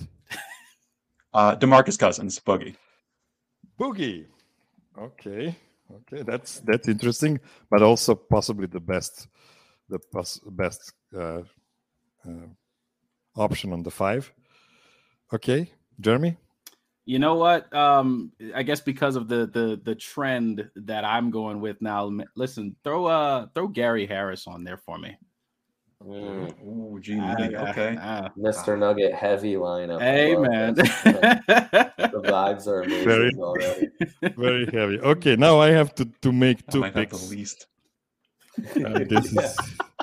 Uh, DeMarcus Cousins, Boogie. Boogie. Okay. Okay, that's that's interesting, but also possibly the best, the pos- best uh, uh, option on the five. Okay, Jeremy. You know what? Um, I guess because of the the the trend that I'm going with now. Listen, throw uh throw Gary Harris on there for me. Mm. Ooh, Gene Ah, Lee. yeah, Okay. ah. Mister Nugget heavy lineup. I Hey, love man. this. The vibes are amazing Very- already. Very heavy. Okay, now I have to to make I two might have picks. the least. And this is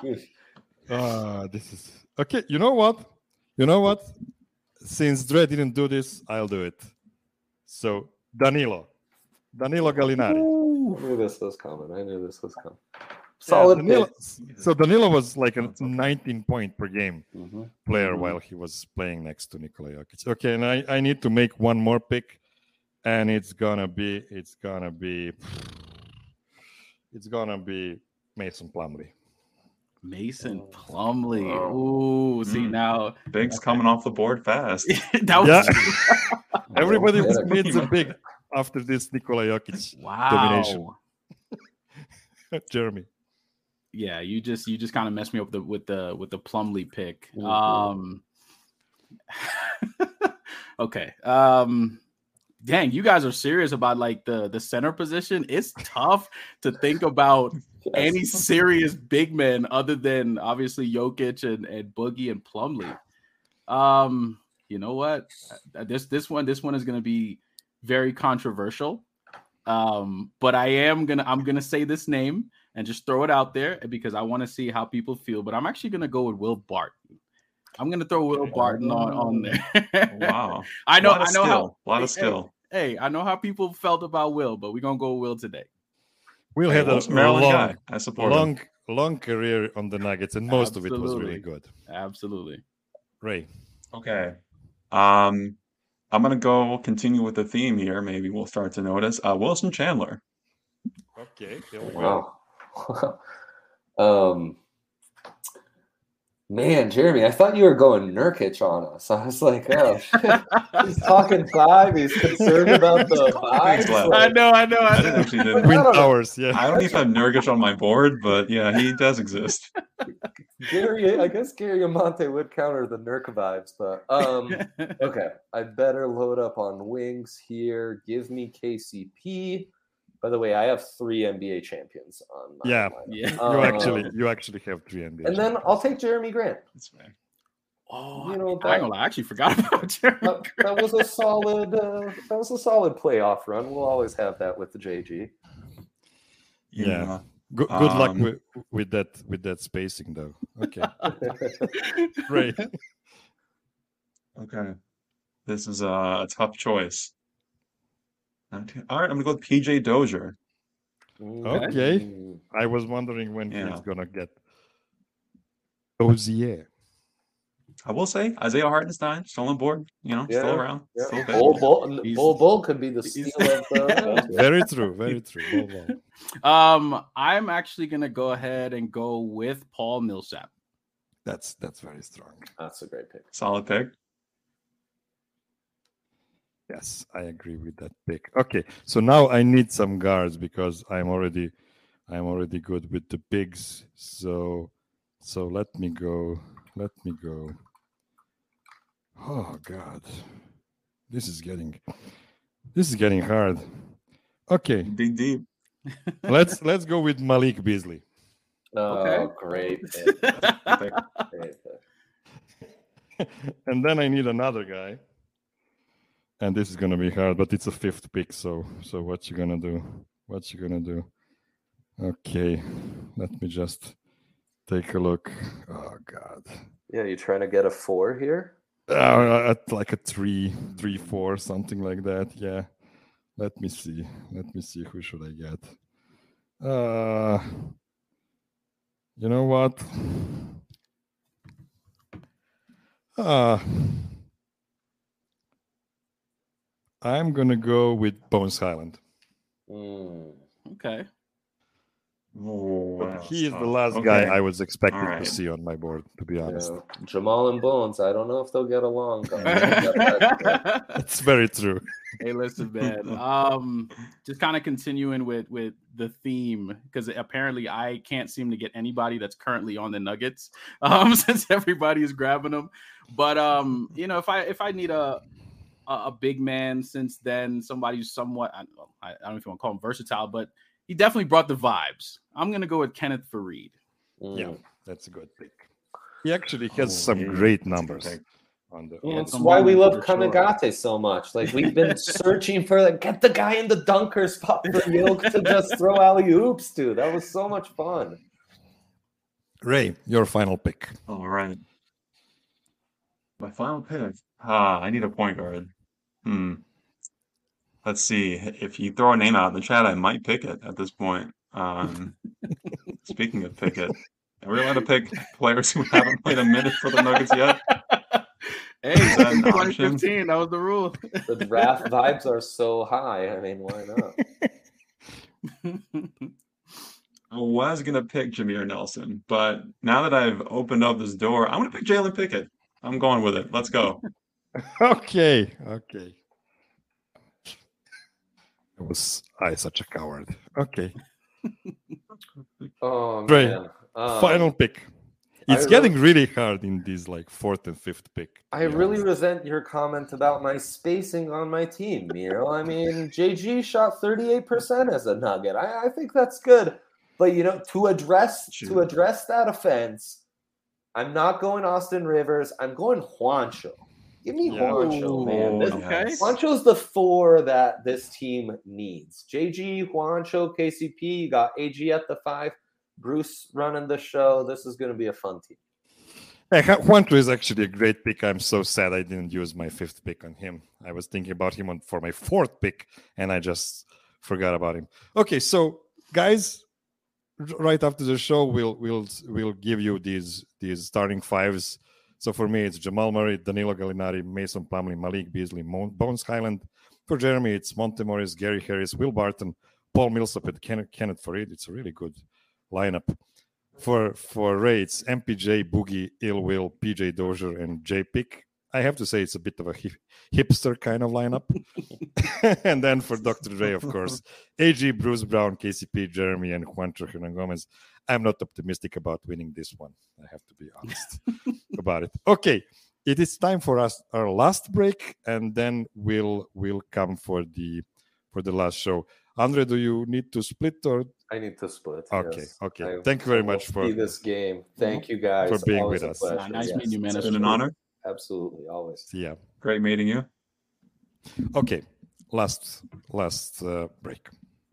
ah, this is okay. You know what? You know what? Since Dre didn't do this, I'll do it. So Danilo, Danilo Gallinari. I knew this was coming. I knew this was coming. Yeah, Solid Danilo, pick. so Danilo was like a That's okay. nineteen point per game Mhm. player Mhm. while he was playing next to Nikola Jokic. Okay, and I, I need to make one more pick, and it's gonna be it's gonna be it's gonna be Mason Plumlee. Mason Plumlee. Wow. Ooh, see Mm. now Big's coming off the board fast. that was Yeah. Everybody Yeah. needs a big after this Nikola Jokic wow. domination. Jeremy. Yeah, you just you just kind of messed me up with the with the with the Plumlee pick. Mhm. Um okay. Um dang, you guys are serious about like the the center position. It's tough to think about Yes. any serious big men other than obviously Jokic and, and Boogie and Plumlee. Um, you know what? Uh, This this one this one is going to be very controversial. Um, but I am gonna I'm gonna say this name and just throw it out there because I want to see how people feel. But I'm actually gonna go with Will Barton. I'm gonna throw Will Barton on on there. Wow. I know lot of I know skill. how A lot of hey, skill. Hey, I know how people felt about Will, but we're gonna go with Will today. Will Hey, had a Will's a Maryland long, guy. I support him. long, long career on the Nuggets, and most of it was really Absolutely. good. Absolutely. Ray. Okay. Um, I'm gonna go continue with the theme here. Maybe we'll start to notice. Uh, Wilson Chandler. Okay, here we go. Wow. um, man, Jeremy, I thought you were going Nurkic on us. I was like, oh, shit. He's talking five. He's concerned about the Thanks, vibes. Lab. I Like, know, I know, I I didn't know. actually didn't. Twin I don't know. Towers, yeah. I don't even have Nurkic on my board, but yeah, he does exist. Gary, I guess Gary Amante would counter the Nurk vibes, but um, okay. I better load up on wings here. Give me K C P. By the way, I have three N B A champions on my Yeah. lineup. Yeah. You Um, actually, you actually have three N B A. and then I'll take Jeremy Grant. That's fair. Oh, You know, I ain't that- gonna lie, I actually forgot about Jeremy. That, that was a solid. Uh, that was a solid playoff run. We'll always have that with the J G. Yeah. Good, good luck Um, with, with that with that spacing, though. Okay, great. Okay. This is a, a tough choice. Okay. All right, I'm gonna go with P J Dozier. Okay. Mm. I was wondering when Yeah. he's gonna get Dozier. I will say Isaiah Hartenstein still on board. You know, still Yeah, around. Yeah. Still big. Bull, Bull, He's- Bull, Bull could be the he's- steal of the. Very true. Very true. Well, well. Um, I'm actually gonna go ahead and go with Paul Millsap. That's that's very strong. That's a great pick. Solid pick. Yes, I agree with that pick. Okay, so now I need some guards because I'm already I'm already good with the bigs. So so let me go. Let me go. Oh God. This is getting This is getting hard. Okay, Dig deep. let's let's go with Malik Beasley. Oh, Okay. great pick. Pick. Great pick. And then I need another guy. And this is gonna be hard, but it's a fifth pick. So so what you gonna do? What you gonna do? Okay, let me just take a look. Oh God. Yeah, you trying to get a four here? Uh, at like a three, three, four, something like that. Yeah. Let me see. Let me see. Who should I get? Uh, you know what? Uh, I'm gonna go with Bones Highland. Mm. Okay. Oh, But that's he is the tough. last Okay. guy I was expecting All right. to see on my board, to be honest. Yeah. Jamal and Bones, I don't know if they'll get along. guys. It's very true. Hey, listen, man. Um, just kind of continuing with with the theme, because apparently I can't seem to get anybody that's currently on the Nuggets, um, since everybody is grabbing them. But um, you know, if I if I need a a, a big man since then, somebody who's somewhat, I don't know, I, I don't know if you want to call him versatile, but he definitely brought the vibes. I'm gonna go with Kenneth Faried. Mm. Yeah, that's a good pick. He actually has Oh, some yeah, great that's a good numbers pick. on the. Yeah, on that's the- some why we love moments for sure. Kanagate so much. Like we've been searching for like get the guy in the dunker spot for Yoke to just throw alley oops to. That was so much fun. Ray, your final pick. All right. My final pick. Ah, I need a point guard. Hmm. Let's see. If you throw a name out in the chat, I might pick it at this point. Um, speaking of pick it, are we allowed to pick players who haven't played a minute for the Nuggets yet? Hey, Is that an twenty option? fifteen, that was the rule. The draft vibes are so high. I mean, why not? I was gonna pick Jameer Nelson, but now that I've opened up this door, I'm gonna pick Jalen Pickett. I'm going with it. Let's go. Okay, okay. I was I such a coward. Okay, Oh Ray, man. Um, final pick. It's I getting really hard in these like fourth and fifth pick. to I be really honest. resent your comment about my spacing on my team, Miro. I mean, J G shot thirty-eight percent as a Nugget. I, I think that's good. But you know, to address to Sure. address that offense, I'm not going Austin Rivers. I'm going Juancho. Give me Yeah. Juancho, man. This, Oh, Okay. yes. Juancho's the four that this team needs. J G, Juancho, K C P. You got A G at the five. Bruce running the show. This is going to be a fun team. Hey, Ju- Juancho is actually a great pick. I'm so sad I didn't use my fifth pick on him. I was thinking about him on, for my fourth pick, and I just forgot about him. Okay, so guys, r- right after the show, we'll we'll we'll give you these these starting fives. So for me, it's Jamal Murray, Danilo Gallinari, Mason Plumlee, Malik Beasley, Mo- Bones Highland. For Jeremy, it's Monte Morris, Gary Harris, Will Barton, Paul Millsap, and Kenneth, Kenneth Faried. It's a really good lineup. For for Ray, it's M P J, Boogie, Ill Will, P J Dozier, and J Pick. I have to say it's a bit of a hip, hipster kind of lineup. And then for Doctor Dre, of course, A G, Bruce Brown, K C P, Jeremy, and Juancho Hernan Gomez. I'm not optimistic about winning this one. I have to be honest about it. Okay, it is time for us our last break, and then we'll we'll come for the for the last show. Andre, do you need to split or I need to split. okay? yes. Okay. I- Thank you very I will much for see this game. Thank you guys for being Always with a us. pleasure. Nah, nice Yes. meeting you, man. It's That's been an cool. honor. Absolutely, always. yeah. Great meeting you. Okay, last last uh, break.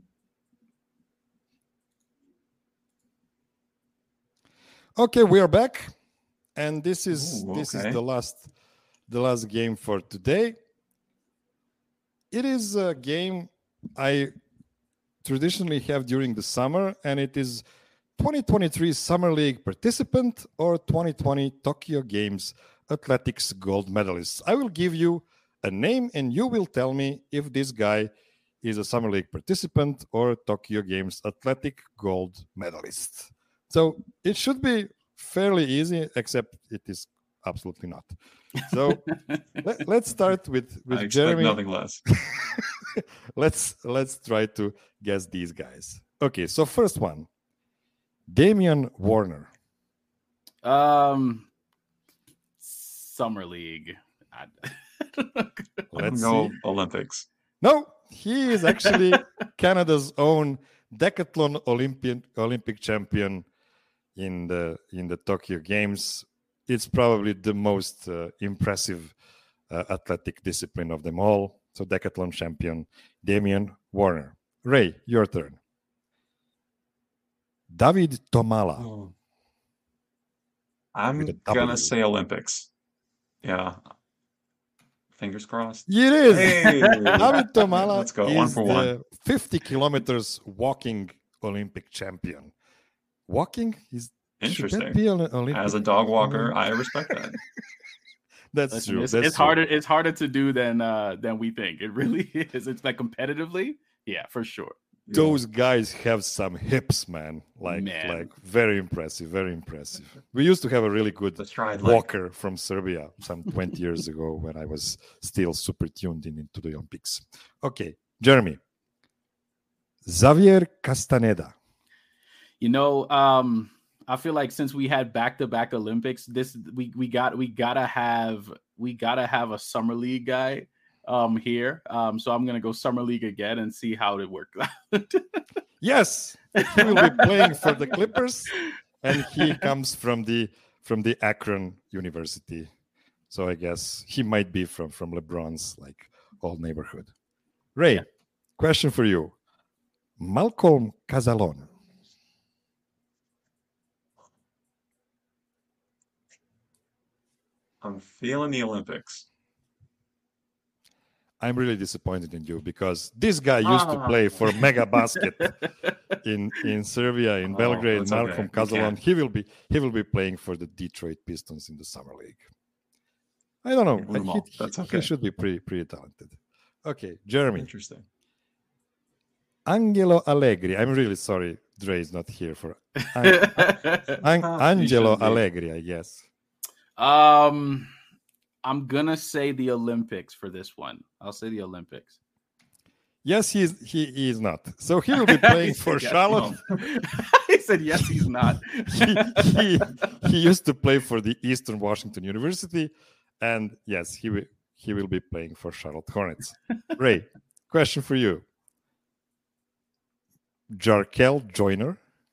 Okay, we are back, and this is Ooh, this is okay. the last the last game for today. It is a game I traditionally have during the summer, and it is twenty twenty-three Summer League participant or twenty twenty Tokyo Games Athletics gold medalist. I will give you a name, and you will tell me if this guy is a Summer League participant or Tokyo Games Athletic gold medalist. So it should be fairly easy, except it is absolutely not. So let, let's start with with I expect Jeremy. nothing less. let's let's try to guess these guys. Okay, so first one, Damian Warner. Um, Summer League. I, I'm Let's gonna see. go Olympics. No, he is actually Canada's own decathlon Olympian Olympic champion in the in the Tokyo Games. It's probably the most uh, impressive uh, athletic discipline of them all. So decathlon champion Damian Warner. Ray, your turn. David Tomala. Oh. I'm With a gonna W. say Olympics. Yeah. Fingers crossed. It is. Hey! David Tomala Let's go. One is for the one. fifty kilometers walking Olympic champion. Walking is should that Interesting. be an Olympic? As a dog walker, I respect that. That's Listen, true. it's, That's it's true. harder. It's harder to do than uh, than we think. It really is. It's like competitively, yeah, for sure. Those guys have some hips, man. Like, Man. like very impressive, very impressive. We used to have a really good The stride leg. walker from Serbia some twenty years ago when I was still super tuned in into the Olympics. Okay, Jeremy. Xavier Castaneda. You know, um, I feel like since we had back-to-back Olympics, this we we got we gotta have we gotta have a summer league guy um here. Um, so I'm gonna go summer league again and see how it works out. Yes, he will be playing for the Clippers, and he comes from the from the Akron University. So I guess he might be from from LeBron's like old neighborhood. Ray, Yeah. question for you. Malcolm Casalon. I'm feeling the Olympics. I'm really disappointed in you because this guy used to Ah. play for Mega Basket in, in Serbia, in Oh, Belgrade. that's okay. Malcolm You Casalon. can't. He will be he will be playing for the Detroit Pistons in the summer league. I don't know. Win them He, all. he- That's he okay. should be pretty pretty talented. Okay, Jeremy. Interesting. Angelo Allegri. I'm really sorry Dre is not here for An- An- Ah, Angelo you should be. Allegri, I guess. um, I'm gonna say the Olympics for this one. I'll say the Olympics. Yes, he is he, he is not. So he will be playing He for said yes, Charlotte. he said yes, he's not. he, he, he used to play for the Eastern Washington University, and yes, he will he will be playing for Charlotte Hornets. Ray, question for you. Jarkel Joyner.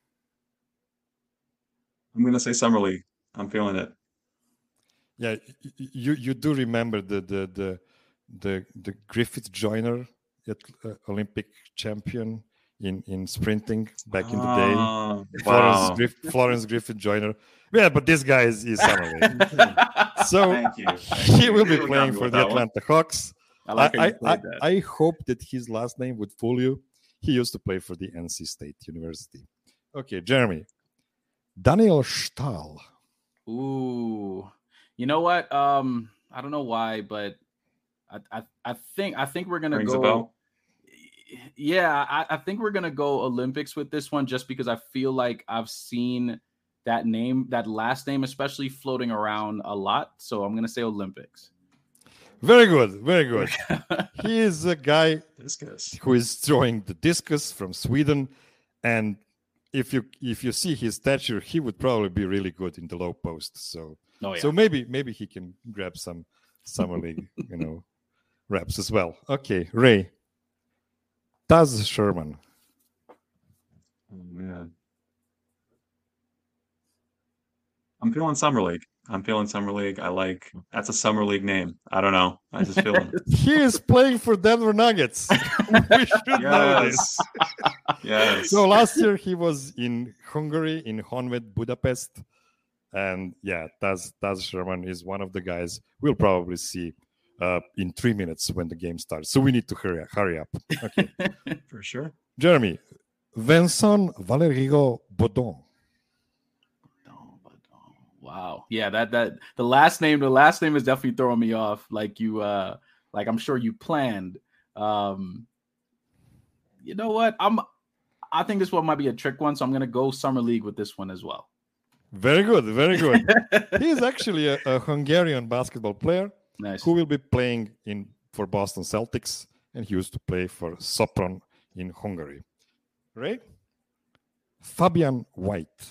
I'm gonna say summer league. I'm feeling it. Yeah, y- y- you you do remember the the the the, the Griffith Joyner, at, uh, Olympic champion in in sprinting back in the day. Ah, Florence, wow. Griff, Florence Griffith Joyner. Yeah, but this guy is, is summer league. So Thank you. he will be You got playing me for with the that one. Atlanta Hawks. I I, like how I, you I, played that. I hope that his last name would fool you. He used to play for the N C State University. Okay, Jeremy. Daniel Stahl. Ooh, you know what? Um, I don't know why, but I I, I think I think we're gonna Rings a go. bell. Yeah, I, I think we're gonna go Olympics with this one, just because I feel like I've seen that name, that last name, especially floating around a lot. So I'm gonna say Olympics. Very good, very good. He is a guy Discus. who is throwing the discus from Sweden, and if you if you see his stature, he would probably be really good in the low post. So Oh yeah. so maybe maybe he can grab some summer league, you know, reps as well. Okay, Ray. Taz Sherman. Oh man. I'm feeling summer league. I'm feeling summer league. I like that's a summer league name. I don't know. I just feel it. He is playing for Denver Nuggets. We should know this. Yes. Yes. So last year he was in Hungary, in Honved, Budapest. And yeah, Taz, Taz Sherman is one of the guys we'll probably see uh, in three minutes when the game starts. So we need to hurry, hurry up. Okay. For sure. Jeremy, Vincent Valerigo Baudon. Wow. Yeah, that that the last name, the last name is definitely throwing me off. Like you uh like I'm sure you planned. Um you know what? I'm I think this one might be a trick one, so I'm gonna go summer league with this one as well. Very good, very good. He is actually a, a Hungarian basketball player Nice. who will be playing in for Boston Celtics, and he used to play for Sopron in Hungary. Right? Fabian White.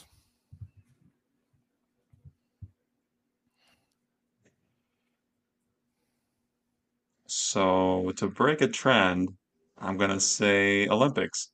So to break a trend, I'm gonna say Olympics.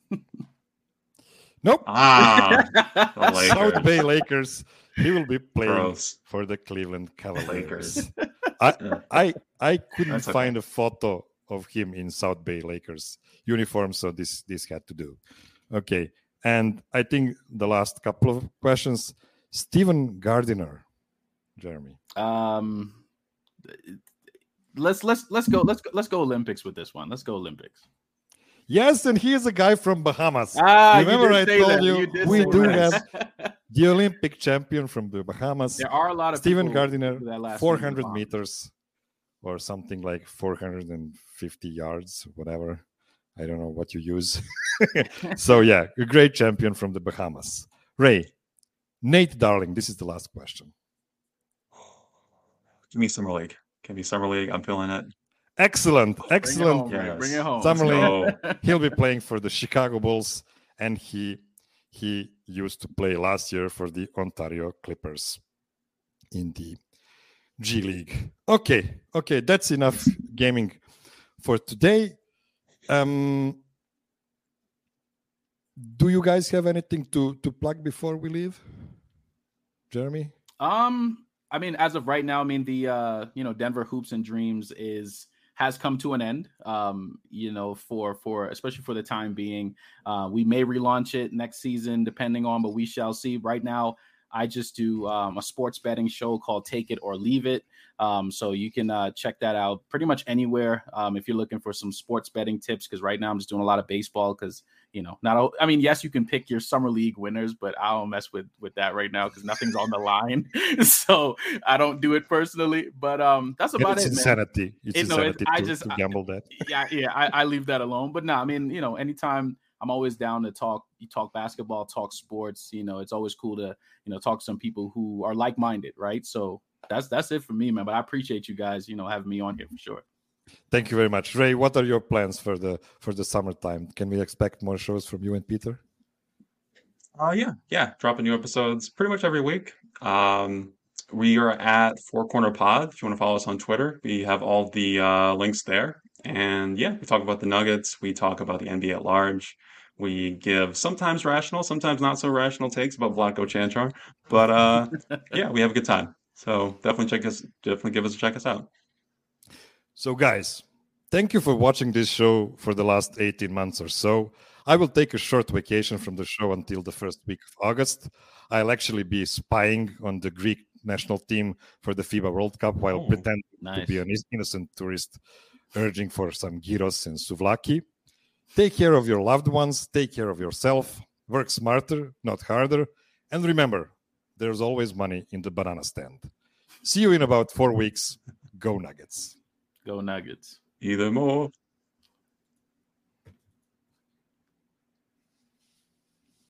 Nope. Ah, the Lakers. South Bay Lakers. He will be playing Gross. for the Cleveland Cavaliers. Lakers. I, Yeah. I I couldn't That's okay. find a photo of him in South Bay Lakers uniform, so this this had to do. Okay, and I think the last couple of questions. Stephen Gardiner, Jeremy. Um, let's let's let's go let's go, let's go Olympics with this one. Let's go Olympics. Yes, and he is a guy from Bahamas. Ah, Remember I told that. you, did we say do that. have the Olympic champion from the Bahamas. There are a lot of Stephen people Gardiner, who that last four name hundred is on. meters or something like four hundred fifty yards, whatever. I don't know what you use. So, yeah, a great champion from the Bahamas. Ray, Nate Darling, this is the last question. Give me Summer League. Give me Summer League. I'm feeling it. Excellent, Bring it excellent. home, Ray. Yes. Bring it home. Summer Let's League. He'll be playing for the Chicago Bulls, and he he used to play last year for the Ontario Clippers in the G League. Okay, okay, that's enough gaming for today. Um, do you guys have anything to to plug before we leave, Jeremy? Um, I mean, as of right now, I mean the uh, you know, Denver Hoops and Dreams is has come to an end. Um, you know, for for especially for the time being. Uh, we may relaunch it next season, depending on, but we shall see. Right now, I just do um, a sports betting show called Take It or Leave It. Um, so you can uh, check that out pretty much anywhere um, if you're looking for some sports betting tips. Because right now I'm just doing a lot of baseball. Because you know, not all, I mean, yes, you can pick your summer league winners, but I don't mess with with that right now because nothing's on the line. So I don't do it personally. But um, that's about it's it, man. insanity. It's It- no, insanity it- I to, just- to gamble that. yeah, yeah, I, I leave that alone. But no, I mean, you know, anytime I'm always down to talk, you talk basketball, talk sports, you know, it's always cool to, you know, talk to some people who are like-minded, right? So that's that's it for me, man. But I appreciate you guys, you know, having me on here for sure. Thank you very much, Ray. What are your plans for the for the summertime? Can we expect more shows from you and Peter? Uh, yeah, yeah. Dropping new episodes pretty much every week. Um, we are at Four Corner Pod. If you want to follow us on Twitter, we have all the uh, links there. And yeah, we talk about the Nuggets. We talk about the N B A at large. We give sometimes rational, sometimes not so rational takes about Vlatko Chanchar. But uh, yeah, we have a good time. So definitely check us. Definitely give us a check us out. So, guys, thank you for watching this show for the last eighteen months or so. I will take a short vacation from the show until the first week of August. I'll actually be spying on the Greek national team for the FIBA World Cup while Oh, pretending to nice. be an innocent tourist urging for some gyros and souvlaki. Take care of your loved ones. Take care of yourself. Work smarter, not harder. And remember, there's always money in the banana stand. See you in about four weeks. Go Nuggets. Go Nuggets. Either more.